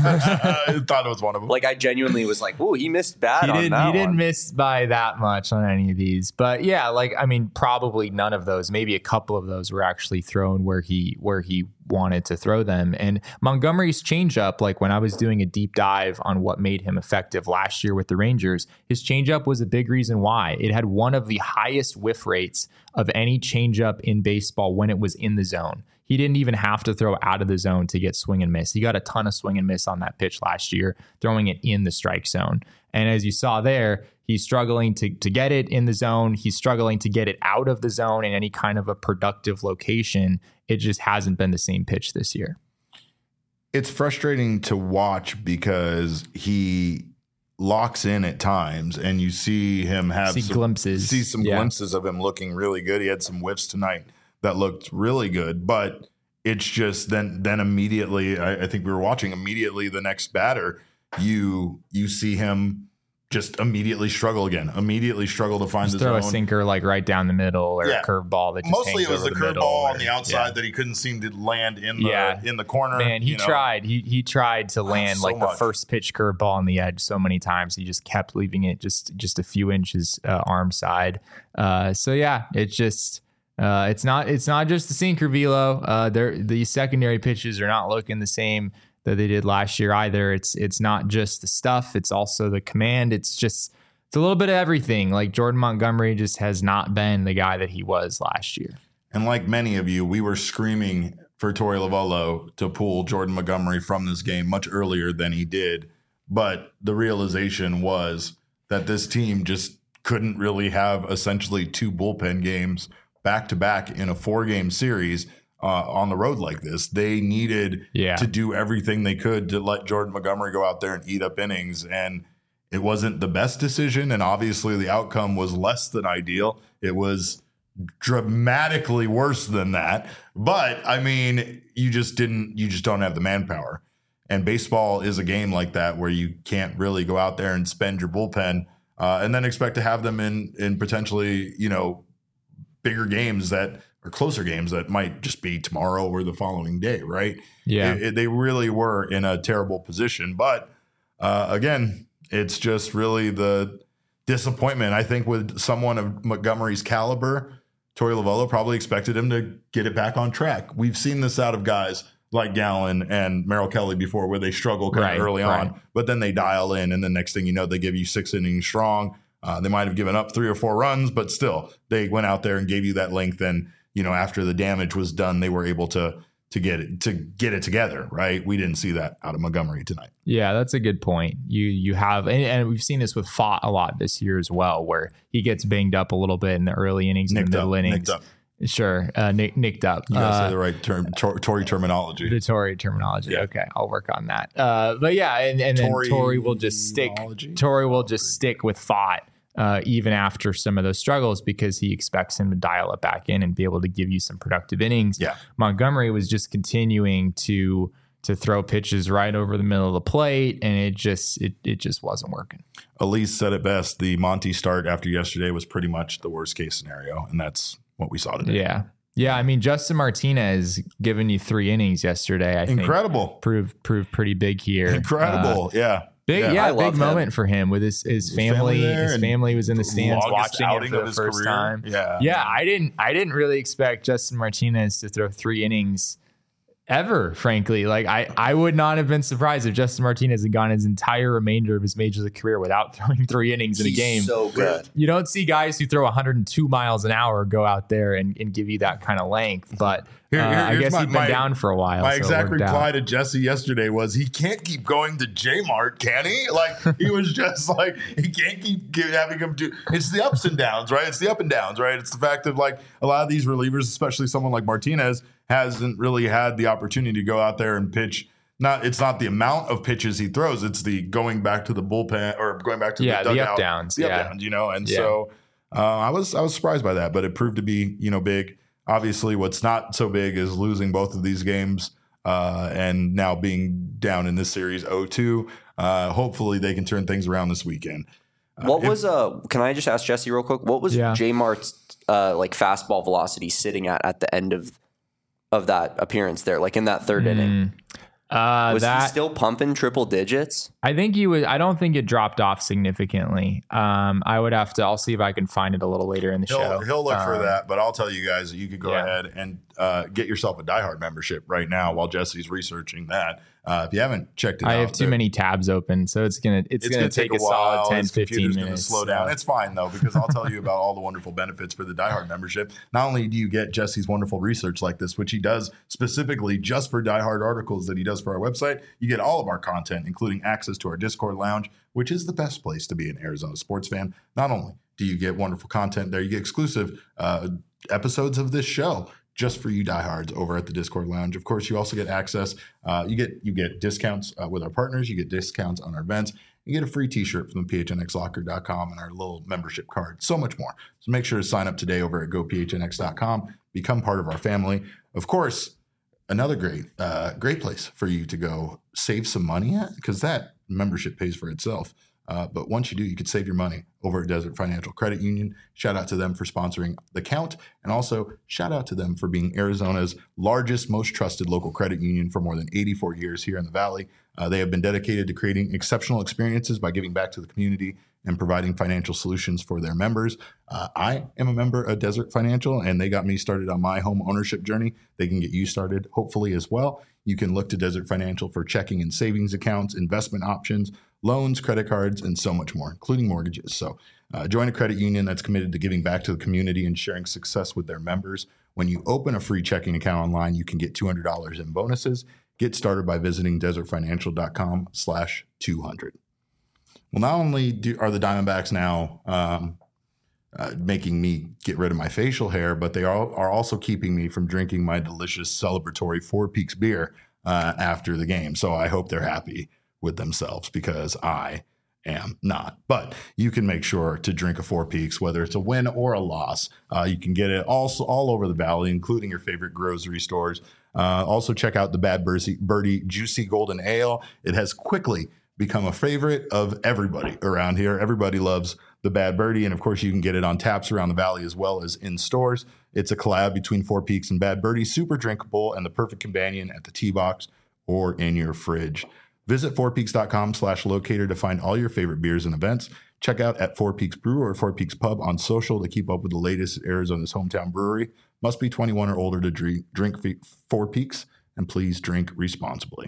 I thought it was one of them. Like I genuinely was like, "Ooh, he missed bad He on didn't, that he didn't one." miss by that much on any of these. But yeah, like, I mean, probably none of those, maybe a couple of those were actually thrown where he where he wanted to throw them. And Montgomery's changeup, like when I was doing a deep dive on what made him effective last year with the Rangers, his changeup was a big reason why. It had one of the highest whiff rates of any changeup in baseball when it was in the zone. He didn't even have to throw out of the zone to get swing and miss. He got a ton of swing and miss on that pitch last year, throwing it in the strike zone. And as you saw there, he's struggling to, to get it in the zone. He's struggling to get it out of the zone in any kind of a productive location. It just hasn't been the same pitch this year. It's frustrating to watch because he locks in at times, and you see him have See some, glimpses. see some Yeah. glimpses of him looking really good. He had some whiffs tonight that looked really good, but it's just then then immediately, I, I think we were watching immediately the next batter, you you see him just immediately struggle again, immediately struggle to find Just the throw zone. a sinker like right down the middle, or Yeah. a curveball that just Mostly hangs it was over the, the middle, curveball on or- the outside yeah. that he couldn't seem to land in the Yeah. in the corner. Man, he you know. tried. He he tried to land so like the much. first pitch curveball on the edge so many times. He just kept leaving it just just a few inches uh, arm side. Uh, so yeah, it's just uh, it's not it's not just the sinker velo. Uh, they're, the secondary pitches are not looking the same that they did last year either. It's it's not just the stuff. It's also the command. It's just it's a little bit of everything. Like Jordan Montgomery just has not been the guy that he was last year. And like many of you, we were screaming for Torey Lovullo to pull Jordan Montgomery from this game much earlier than he did. But the realization was that this team just couldn't really have essentially two bullpen games back to back in a four game series uh, on the road like this. They needed Yeah. to do everything they could to let Jordan Montgomery go out there and eat up innings. And it wasn't the best decision. And obviously the outcome was less than ideal. It was dramatically worse than that. But I mean, you just didn't, you just don't have the manpower. And baseball is a game like that where you can't really go out there and spend your bullpen uh, and then expect to have them in, in potentially, you know, bigger games that are closer games that might just be tomorrow or the following day. Right. Yeah. It, it, they really were in a terrible position. But uh, again, it's just really the disappointment. I think with someone of Montgomery's caliber, Torey Lovullo probably expected him to get it back on track. We've seen this out of guys like Gallen and Merrill Kelly before, where they struggle kind Right, of early right. on, but then they dial in, and the next thing you know, they give you six innings strong. Uh, they might have given up three or four runs, but still, they went out there and gave you that length. And you know, after the damage was done, they were able to to get it to get it together, right? We didn't see that out of Montgomery tonight. Yeah, that's a good point. You you have, and, and we've seen this with Fott a lot this year as well, where he gets banged up a little bit in the early innings, in the middle up, innings. Nicked up. Sure, uh, nick, nicked up. You gotta uh, say the right term, tor- Tory terminology. The Tory terminology. Yeah. Okay, I'll work on that. Uh, but yeah, and, and then Tory Tory will just stick. terminology? Tory will just stick with Fott. Uh, even after some of those struggles, because he expects him to dial it back in and be able to give you some productive innings. Yeah. Montgomery was just continuing to to throw pitches right over the middle of the plate, and it just it it just wasn't working. Elise said it best. The Monty start after yesterday was pretty much the worst case scenario, and that's what we saw today. Yeah. Yeah, I mean, Justin Martinez giving you three innings yesterday, I Incredible. think proved proved pretty big here. Incredible. Uh, yeah. Big, Yeah, yeah, I big love moment him. for him with his his His family. family there His and family was in the stands longest watching outing it for of the his first career. time. Yeah. yeah. I didn't, I didn't really expect Justin Martinez to throw three innings ever. Frankly, like I, I would not have been surprised if Justin Martinez had gone his entire remainder of his major league career without throwing three innings in a He's game. so good. You don't see guys who throw one hundred two miles an hour go out there and, and give you that kind of length, but. Here- Uh, here- I here's guess my- he'd been my- down for a while. My so it exact worked reply out. to Jesse yesterday was he can't keep going to J-Mart, can he? Like he was just like he can't keep give, having him do. It's the ups and downs, right? It's the up and downs, right? It's the fact of like a lot of these relievers, especially someone like Martinez, hasn't really had the opportunity to go out there and pitch. Not it's not the amount of pitches he throws; it's the going back to the bullpen or going back to Yeah, the the dugout, up downs, the yeah. up downs, you know. And Yeah. so uh, I was I was surprised by that, but it proved to be you know big. Obviously, what's not so big is losing both of these games uh, and now being down in this series oh two. Uh, hopefully, they can turn things around this weekend. Uh, What if- was uh? Can I just ask Jesse real quick? What was Yeah. J Mart's uh like fastball velocity sitting at at the end of of that appearance there, like in that third inning? Uh, Was that he still pumping triple digits? I think he was. I don't think it dropped off significantly. Um, I would have to. I'll see if I can find it a little later in the He'll, show. he'll look for Um, that, but I'll tell you guys that you could go Yeah. ahead and uh, get yourself a diehard membership right now while Jesse's researching that. Uh, if you haven't checked it I out, have too there- many tabs open, so it's gonna it's, It's gonna, going to take, take a, a solid while. ten, His fifteen computer's going to minutes. slow down. so- It's fine though, because I'll tell you about all the wonderful benefits for the diehard membership. Not only do you get Jesse's wonderful research like this, which he does specifically just for diehard articles that he does for our website, you get all of our content, including access to our Discord lounge, which is the best place to be an Arizona sports fan. Not only do you get wonderful content there, you get exclusive uh, episodes of this show just for you diehards over at the Discord lounge. Of course, you also get access. Uh, you get you get discounts uh, with our partners. You get discounts on our events. You get a free T-shirt from the P H N X locker dot com and our little membership card. So much more. So make sure to sign up today over at go P H N X dot com. Become part of our family. Of course, another great uh, great place for you to go save some money at, because that membership pays for itself. Uh, but once you do, you could save your money over at Desert Financial Credit Union. Shout out to them for sponsoring The Count. And also shout out to them for being Arizona's largest, most trusted local credit union for more than eighty-four years here in the Valley. Uh, they have been dedicated to creating exceptional experiences by giving back to the community and providing financial solutions for their members. Uh, I am a member of Desert Financial, and they got me started on my home ownership journey. They can get you started, hopefully, as well. You can look to Desert Financial for checking and savings accounts, investment options, loans, credit cards, and so much more, including mortgages. So uh, join a credit union that's committed to giving back to the community and sharing success with their members. When you open a free checking account online, you can get two hundred dollars in bonuses. Get started by visiting desert financial dot com slash two hundred. Well, not only do, are the Diamondbacks now um, uh, making me get rid of my facial hair, but they are, are also keeping me from drinking my delicious celebratory Four Peaks beer uh, after the game. So I hope they're happy with themselves, because I am not. But you can make sure to drink a Four Peaks, whether it's a win or a loss. Uh, you can get it also all over the Valley, including your favorite grocery stores. Uh, also, check out the Bad Birdie, Birdie Juicy Golden Ale. It has quickly become a favorite of everybody around here. Everybody loves the Bad Birdie. And of course, you can get it on taps around the Valley as well as in stores. It's a collab between Four Peaks and Bad Birdie, super drinkable and the perfect companion at the tee box or in your fridge. Visit four peaks dot com slash locator to find all your favorite beers and events. Check out at Four Peaks Brew or Four Peaks Pub on social to keep up with the latest at Arizona's hometown brewery. Must be twenty-one or older to drink, drink Four Peaks, and please drink responsibly.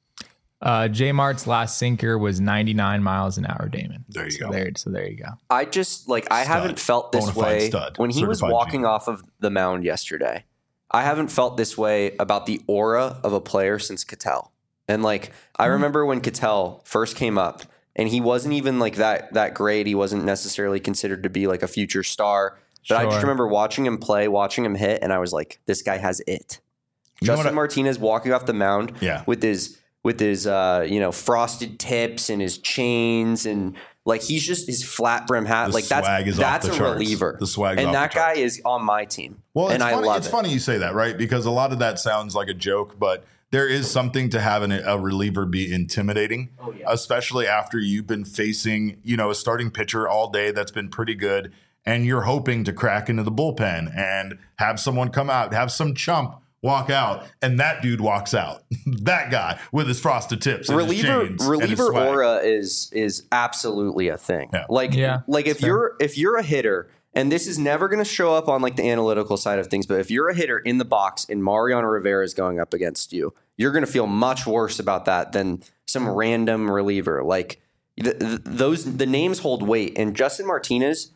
Uh, J Mart's last sinker was ninety-nine miles an hour, Damon. There you so go. There, so there you go. I just like I Stud. haven't felt this Bonafide way stud. when he was Certified walking G. off of the mound yesterday. I haven't felt this way about the aura of a player since Ketel. And like, I remember when Ketel first came up and he wasn't even like that, that great. He wasn't necessarily considered to be like a future star, but sure. I just remember watching him play, watching him hit. And I was like, this guy has it. You Justin I, Martinez walking off the mound yeah. with his, with his, uh, you know, frosted tips and his chains and like, he's just his flat brim hat. The like that's, is that's off the a charts. reliever. The swag and off that the guy is on my team. Well, and it's I funny, love it's it. funny you say that, right? Because a lot of that sounds like a joke, but there is something to having a reliever be intimidating, oh, yeah. especially after you've been facing, you know, a starting pitcher all day that's been pretty good, and you're hoping to crack into the bullpen and have someone come out, have some chump walk out, and that dude walks out. That guy with his frosted tips, and reliever, his chains reliever and his swag. aura is is absolutely a thing. Yeah. Like, yeah, like if fair. you're if you're a hitter. And this is never going to show up on like the analytical side of things. But if you're a hitter in the box and Mariano Rivera is going up against you, you're going to feel much worse about that than some random reliever. Like the, the, those, the names hold weight. And Justin Martinez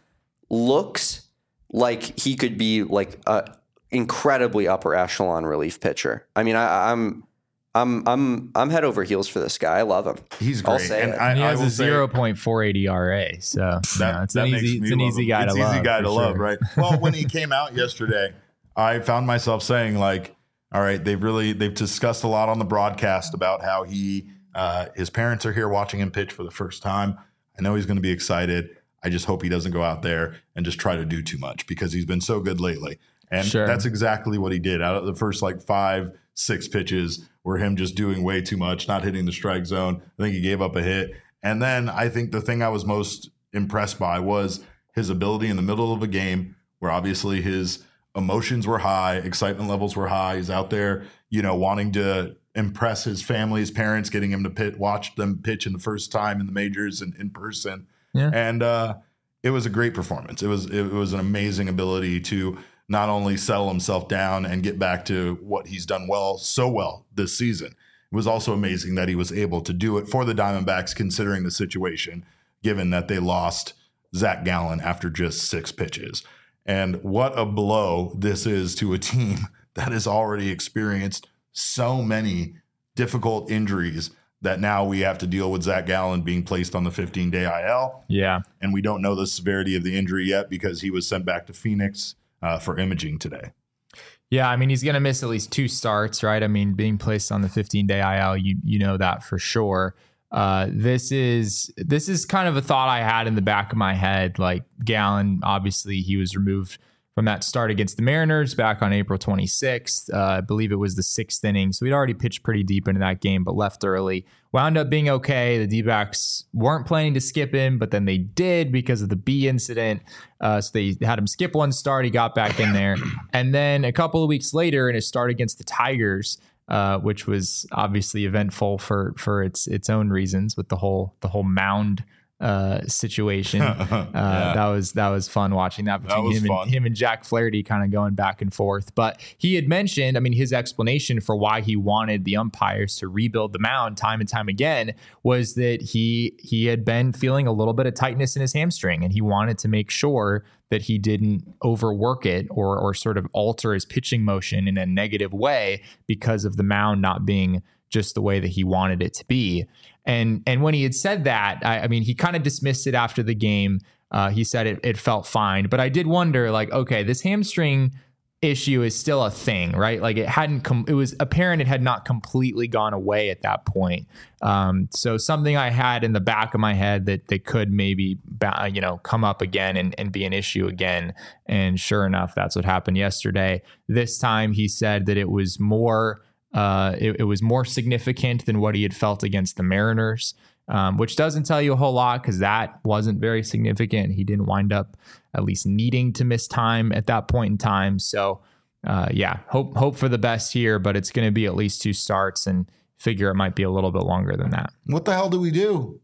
looks like he could be like a incredibly upper echelon relief pitcher. I mean, I, I'm. I'm I'm I'm head over heels for this guy. I love him. He's great. I'll say and it. I, he has I will a zero point four eight E R A, so that, you know, it's that an makes easy me it's an love easy him. guy it's to easy love. guy to sure. love, right? Well, when he came out yesterday, I found myself saying like, all right, they've really they've discussed a lot on the broadcast about how he uh, his parents are here watching him pitch for the first time. I know he's going to be excited. I just hope he doesn't go out there and just try to do too much because he's been so good lately. And sure. that's exactly what he did. Out of the first like five, six pitches were him just doing way too much, not hitting the strike zone. I think he gave up a hit. And then I think the thing I was most impressed by was his ability in the middle of a game where obviously his emotions were high, excitement levels were high. He's out there, you know, wanting to impress his family, his parents, getting him to pit, watch them pitch in the first time in the majors and in person. Yeah. And uh, it was a great performance. It was, it was an amazing ability to not only settle himself down and get back to what he's done well, so well this season. It was also amazing that he was able to do it for the Diamondbacks, considering the situation, given that they lost Zach Gallen after just six pitches. And what a blow this is to a team that has already experienced so many difficult injuries that now we have to deal with Zach Gallen being placed on the fifteen-day I L. Yeah. And we don't know the severity of the injury yet because he was sent back to Phoenix Uh, for imaging today. Yeah, I mean, he's going to miss at least two starts, right? I mean, being placed on the fifteen-day I L, you you know that for sure. Uh, this is this is kind of a thought I had in the back of my head. Like Gallen, obviously, he was removed from that start against the Mariners back on April twenty-sixth. Uh, I believe it was the sixth inning. So he'd already pitched pretty deep into that game, but left early. Wound up being okay. The D-backs weren't planning to skip him, but then they did because of the B incident. Uh, so they had him skip one start. He got back in there. And then a couple of weeks later in his start against the Tigers, uh, which was obviously eventful for for its its own reasons with the whole the whole mound uh situation. uh yeah. that was that was fun watching that between that him fun. and him and Jack Flaherty kind of going back and forth. But he had mentioned, I mean, his explanation for why he wanted the umpires to rebuild the mound time and time again was that he he had been feeling a little bit of tightness in his hamstring, and he wanted to make sure that he didn't overwork it or or sort of alter his pitching motion in a negative way because of the mound not being just the way that he wanted it to be. And and when he had said that, I, I mean, he kind of dismissed it after the game. Uh, he said it, it felt fine. But I did wonder, like, okay, this hamstring issue is still a thing, right? Like it hadn't com- it was apparent it had not completely gone away at that point. Um, so something I had in the back of my head that that could maybe, ba- you know, come up again and, and be an issue again. And sure enough, that's what happened yesterday. This time he said that it was more Uh, it, it was more significant than what he had felt against the Mariners, um, which doesn't tell you a whole lot because that wasn't very significant. He didn't wind up at least needing to miss time at that point in time. So, uh, yeah, hope hope for the best here, but it's going to be at least two starts, and figure it might be a little bit longer than that. What the hell do we do?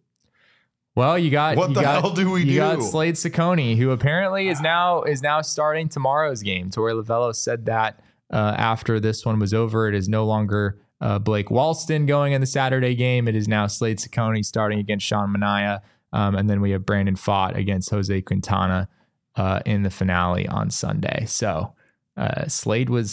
Well, you got what you the got, hell do we you do? got Slade Ciccone, who apparently is now is now starting tomorrow's game. Torey Lovullo said that. Uh, after this one was over, it is no longer uh, Blake Walston going in the Saturday game. It is now Slade Ciccone starting against Sean Manaea. Um, and then we have Brandon Pfaadt against Jose Quintana uh, in the finale on Sunday. So uh, Slade was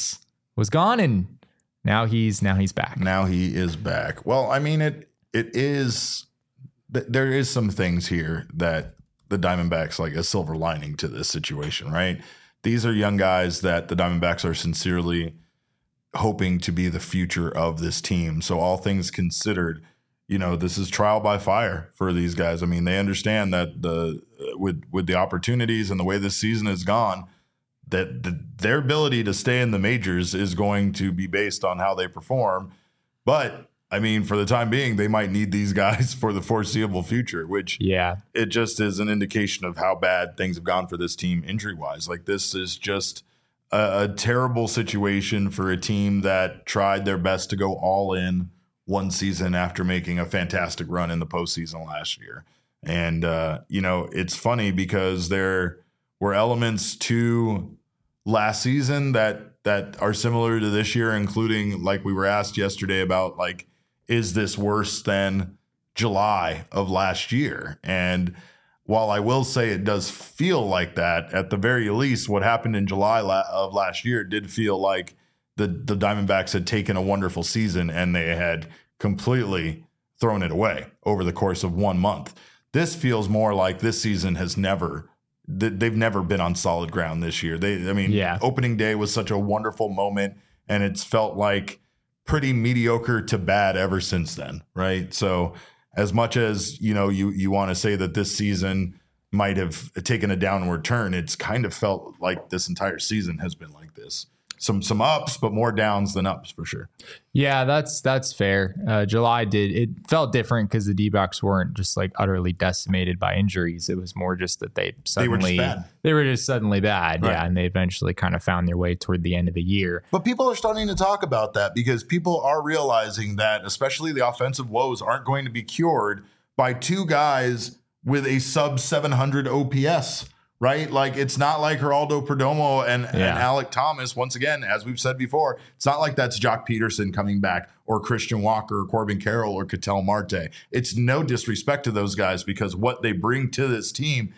was gone, and now he's now he's back. Now he is back. Well, I mean, it it is th- there is some things here that the Diamondbacks like a silver lining to this situation, right? These are young guys that the Diamondbacks are sincerely hoping to be the future of this team. So all things considered, you know, this is trial by fire for these guys. I mean, they understand that the with with the opportunities and the way this season has gone, that the, their ability to stay in the majors is going to be based on how they perform. But I mean, for the time being, they might need these guys for the foreseeable future, which yeah, it just is an indication of how bad things have gone for this team injury wise. Like this is just a, a terrible situation for a team that tried their best to go all in one season after making a fantastic run in the postseason last year. And, uh, you know, it's funny because there were elements to last season that that are similar to this year, including like we were asked yesterday about like, is this worse than July of last year? And while I will say it does feel like that, at the very least, what happened in July of last year did feel like the, the Diamondbacks had taken a wonderful season and they had completely thrown it away over the course of one month. This feels more like this season has never, they've never been on solid ground this year. They, I mean, yeah. Opening day was such a wonderful moment, and it's felt like pretty mediocre to bad ever since then, right? So as much as, you know, you you want to say that this season might have taken a downward turn, it's kind of felt like this entire season has been like this. Some some ups, but more downs than ups for sure. Yeah, that's that's fair. Uh, July did it felt different because the D-backs weren't just like utterly decimated by injuries. It was more just that they suddenly they were just bad. They were just suddenly bad, right. Yeah, and they eventually kind of found their way toward the end of the year. But people are starting to talk about that because people are realizing that, especially the offensive woes, aren't going to be cured by two guys with a sub seven hundred O P S. Right? Like, it's not like Geraldo Perdomo and, yeah. and Alec Thomas. Once again, as we've said before, it's not like that's Jock Peterson coming back or Christian Walker or Corbin Carroll or Ketel Marte. It's no disrespect to those guys because what they bring to this team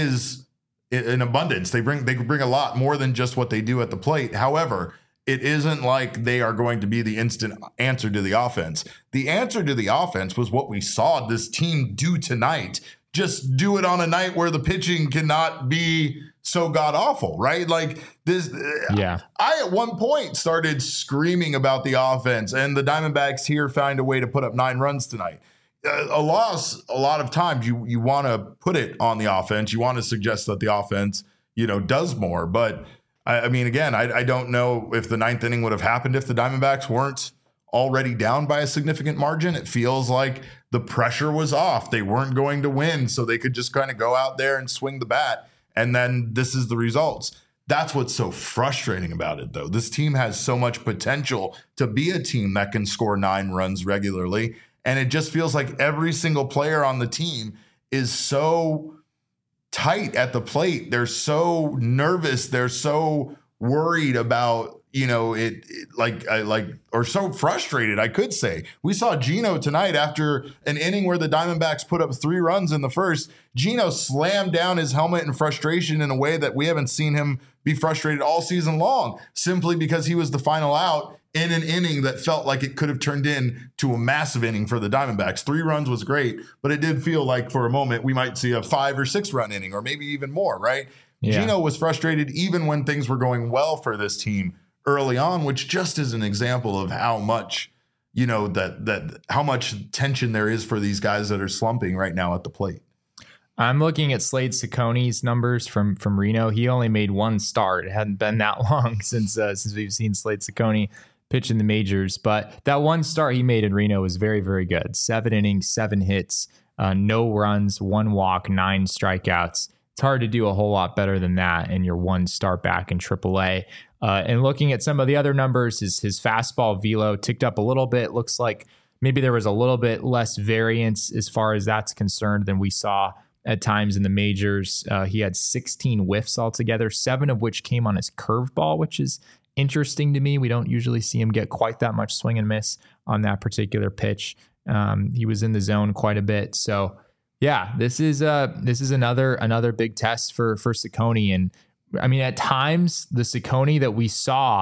is in abundance. They bring they bring a lot more than just what they do at the plate. However, it isn't like they are going to be the instant answer to the offense. The answer to the offense was what we saw this team do tonight. Just do it on a night where the pitching cannot be so god awful, right? Like this. Yeah. I at one point started screaming about the offense, and the Diamondbacks here find a way to put up nine runs tonight. A loss, a lot of times you you want to put it on the offense. You want to suggest that the offense, you know, does more. But I, I mean, again, I, I don't know if the ninth inning would have happened if the Diamondbacks weren't already down by a significant margin. It feels like the pressure was off. They weren't going to win, so they could just kind of go out there and swing the bat. And then this is the results. That's what's so frustrating about it, though. This team has so much potential to be a team that can score nine runs regularly. And it just feels like every single player on the team is so tight at the plate. They're so nervous. They're so worried about, you know, it, it like, I like, or so frustrated, I could say. We saw Gino tonight after an inning where the Diamondbacks put up three runs in the first. Gino slammed down his helmet in frustration in a way that we haven't seen him be frustrated all season long, simply because he was the final out in an inning that felt like it could have turned into a massive inning for the Diamondbacks. Three runs was great, but it did feel like for a moment we might see a five or six run inning or maybe even more, right? Yeah. Gino was frustrated even when things were going well for this team early on, which just is an example of how much, you know, that that how much tension there is for these guys that are slumping right now at the plate. I'm looking at Slade Cecconi's numbers from from Reno. He only made one start. It hadn't been that long since uh, since we've seen Slade Cecconi pitch in the majors, but that one start he made in Reno was very, very good. Seven innings, seven hits, uh, no runs, one walk, nine strikeouts. It's hard to do a whole lot better than that in your one start back in triple A. Uh, and looking at some of the other numbers, his, his fastball velo ticked up a little bit. Looks like maybe there was a little bit less variance as far as that's concerned than we saw at times in the majors. Uh, he had sixteen whiffs altogether, seven of which came on his curveball, which is interesting to me. We don't usually see him get quite that much swing and miss on that particular pitch. Um, he was in the zone quite a bit. So yeah, this is uh this is another another big test for for Cecconi. And I mean, at times the Cecconi that we saw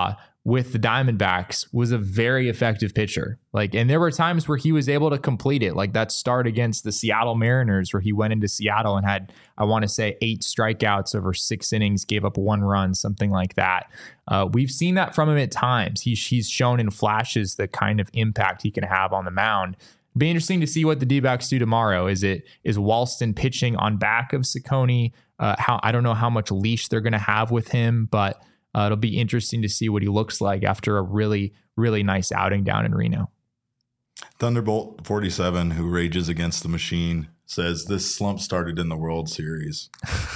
with the Diamondbacks was a very effective pitcher. Like, and there were times where he was able to complete it, like that start against the Seattle Mariners, where he went into Seattle and had, I want to say, eight strikeouts over six innings, gave up one run, something like that. Uh, we've seen that from him at times. He's, he's shown in flashes the kind of impact he can have on the mound. Be interesting to see what the D-backs do tomorrow. Is it is Walston pitching on back of Ciccone? Uh, how I don't know how much leash they're going to have with him, but Uh, it'll be interesting to see what he looks like after a really, really nice outing down in Reno. Thunderbolt forty-seven, who rages against the machine, says this slump started in the World Series.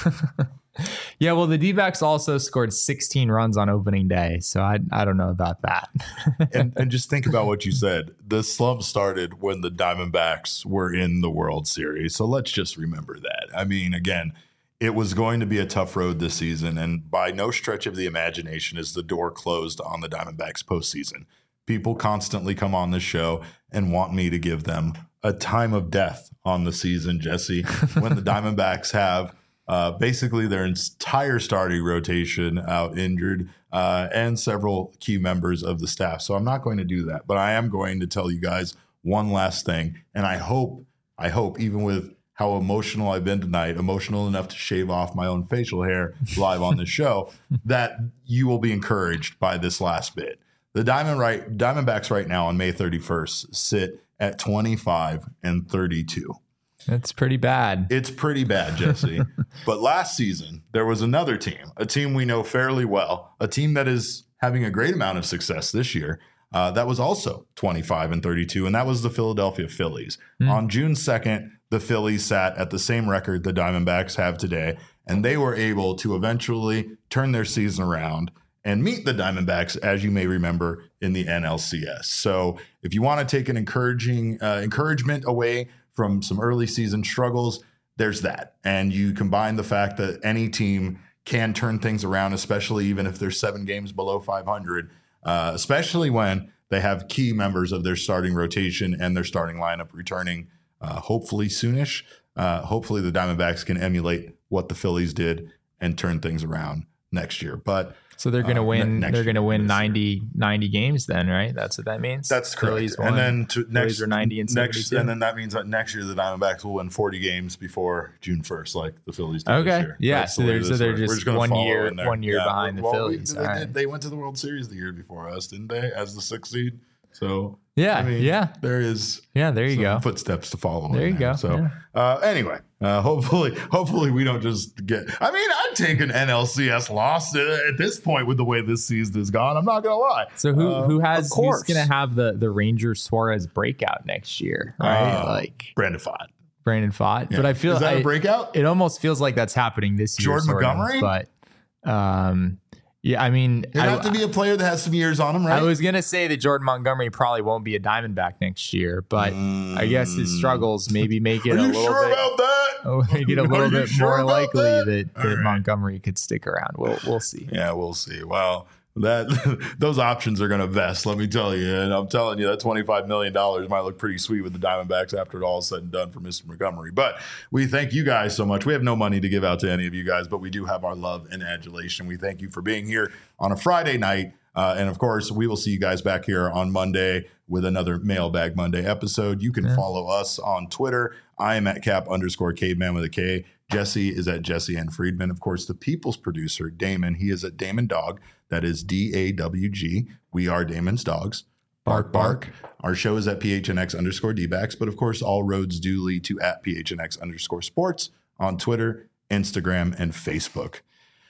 Yeah, well, the D-backs also scored sixteen runs on opening day, so I I don't know about that. and, and just think about what you said. The slump started when the Diamondbacks were in the World Series, so let's just remember that. I mean, again, it was going to be a tough road this season, and by no stretch of the imagination is the door closed on the Diamondbacks postseason. People constantly come on this show and want me to give them a time of death on the season, Jesse, when the Diamondbacks have uh, basically their entire starting rotation out injured uh, and several key members of the staff. So I'm not going to do that, but I am going to tell you guys one last thing, and I hope, I hope even with how emotional I've been tonight, emotional enough to shave off my own facial hair live on the show, that you will be encouraged by this last bit. The Diamond right, Diamondbacks right now on May thirty-first sit at twenty-five and thirty-two. That's pretty bad. It's pretty bad, Jesse. But last season, there was another team, a team we know fairly well, a team that is having a great amount of success this year. Uh, that was also twenty-five and thirty-two, and that was the Philadelphia Phillies. Mm. On June second, the Phillies sat at the same record the Diamondbacks have today, and they were able to eventually turn their season around and meet the Diamondbacks, as you may remember, in the N L C S. So if you want to take an encouraging uh, encouragement away from some early season struggles, there's that. And you combine the fact that any team can turn things around, especially even if they're seven games below five hundred, uh, especially when they have key members of their starting rotation and their starting lineup returning Uh, hopefully soonish. Uh, hopefully the Diamondbacks can emulate what the Phillies did and turn things around next year. But so they're going to uh, win. Ne- they're going to win ninety, ninety games then, right? That's what that means. That's correct. Phillies and won. then to next are ninety and next, and then that means that next year the Diamondbacks will win forty games before June first, like the Phillies did okay. this year. Yeah, That's so the they're so they're just, just one year one year yeah, behind well, the Phillies. We, they, right. did, they went to the World Series the year before us, didn't they? As the sixth seed. So yeah, I mean, yeah, there is yeah, there you some go. footsteps to follow. There you there. go. So yeah. uh, anyway, uh, hopefully, hopefully we don't just get. I mean, I'd take an N L C S loss at this point with the way this season has gone. I'm not gonna lie. So who uh, who has who's gonna have the the Ranger Suarez breakout next year? Right, uh, like Brandon Pfaadt. Brandon Pfaadt. Yeah. But I feel is that I, a breakout? It almost feels like that's happening this year. Jordan Montgomery, of, but um. Yeah, I mean, you have to be a player that has some years on him, right? I was gonna say that Jordan Montgomery probably won't be a Diamondback next year, but mm. I guess his struggles maybe make it Are a you little sure bit about that? Oh, make it a little bit sure more likely that, that, that right. Montgomery could stick around. We'll we'll see. Yeah, we'll see. Well, that those options are going to vest, let me tell you. And I'm telling you, that twenty-five million dollars might look pretty sweet with the Diamondbacks after it all is said and done for Mister Montgomery. But we thank you guys so much. We have no money to give out to any of you guys, but we do have our love and adulation. We thank you for being here on a Friday night. Uh, and of course, we will see you guys back here on Monday with another Mailbag Monday episode. You can yeah. follow us on Twitter. I am at cap underscore caveman with a K. Jesse is at Jesse N. Friedman. Of course, the people's producer, Damon, he is at Damon Dog. That is D A W G. We are Damon's Dogs. Bark, bark. Our show is at P H N X underscore D-backs. But of course, all roads do lead to at P H N X underscore sports on Twitter, Instagram, and Facebook.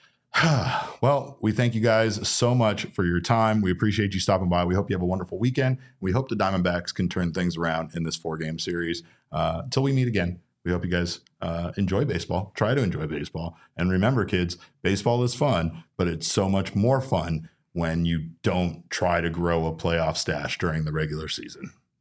Well, we thank you guys so much for your time. We appreciate you stopping by. We hope you have a wonderful weekend. We hope the Diamondbacks can turn things around in this four-game series. Uh, until we meet again, we hope you guys uh, enjoy baseball. Try to enjoy baseball. And remember, kids, baseball is fun, but it's so much more fun when you don't try to grow a playoff stash during the regular season.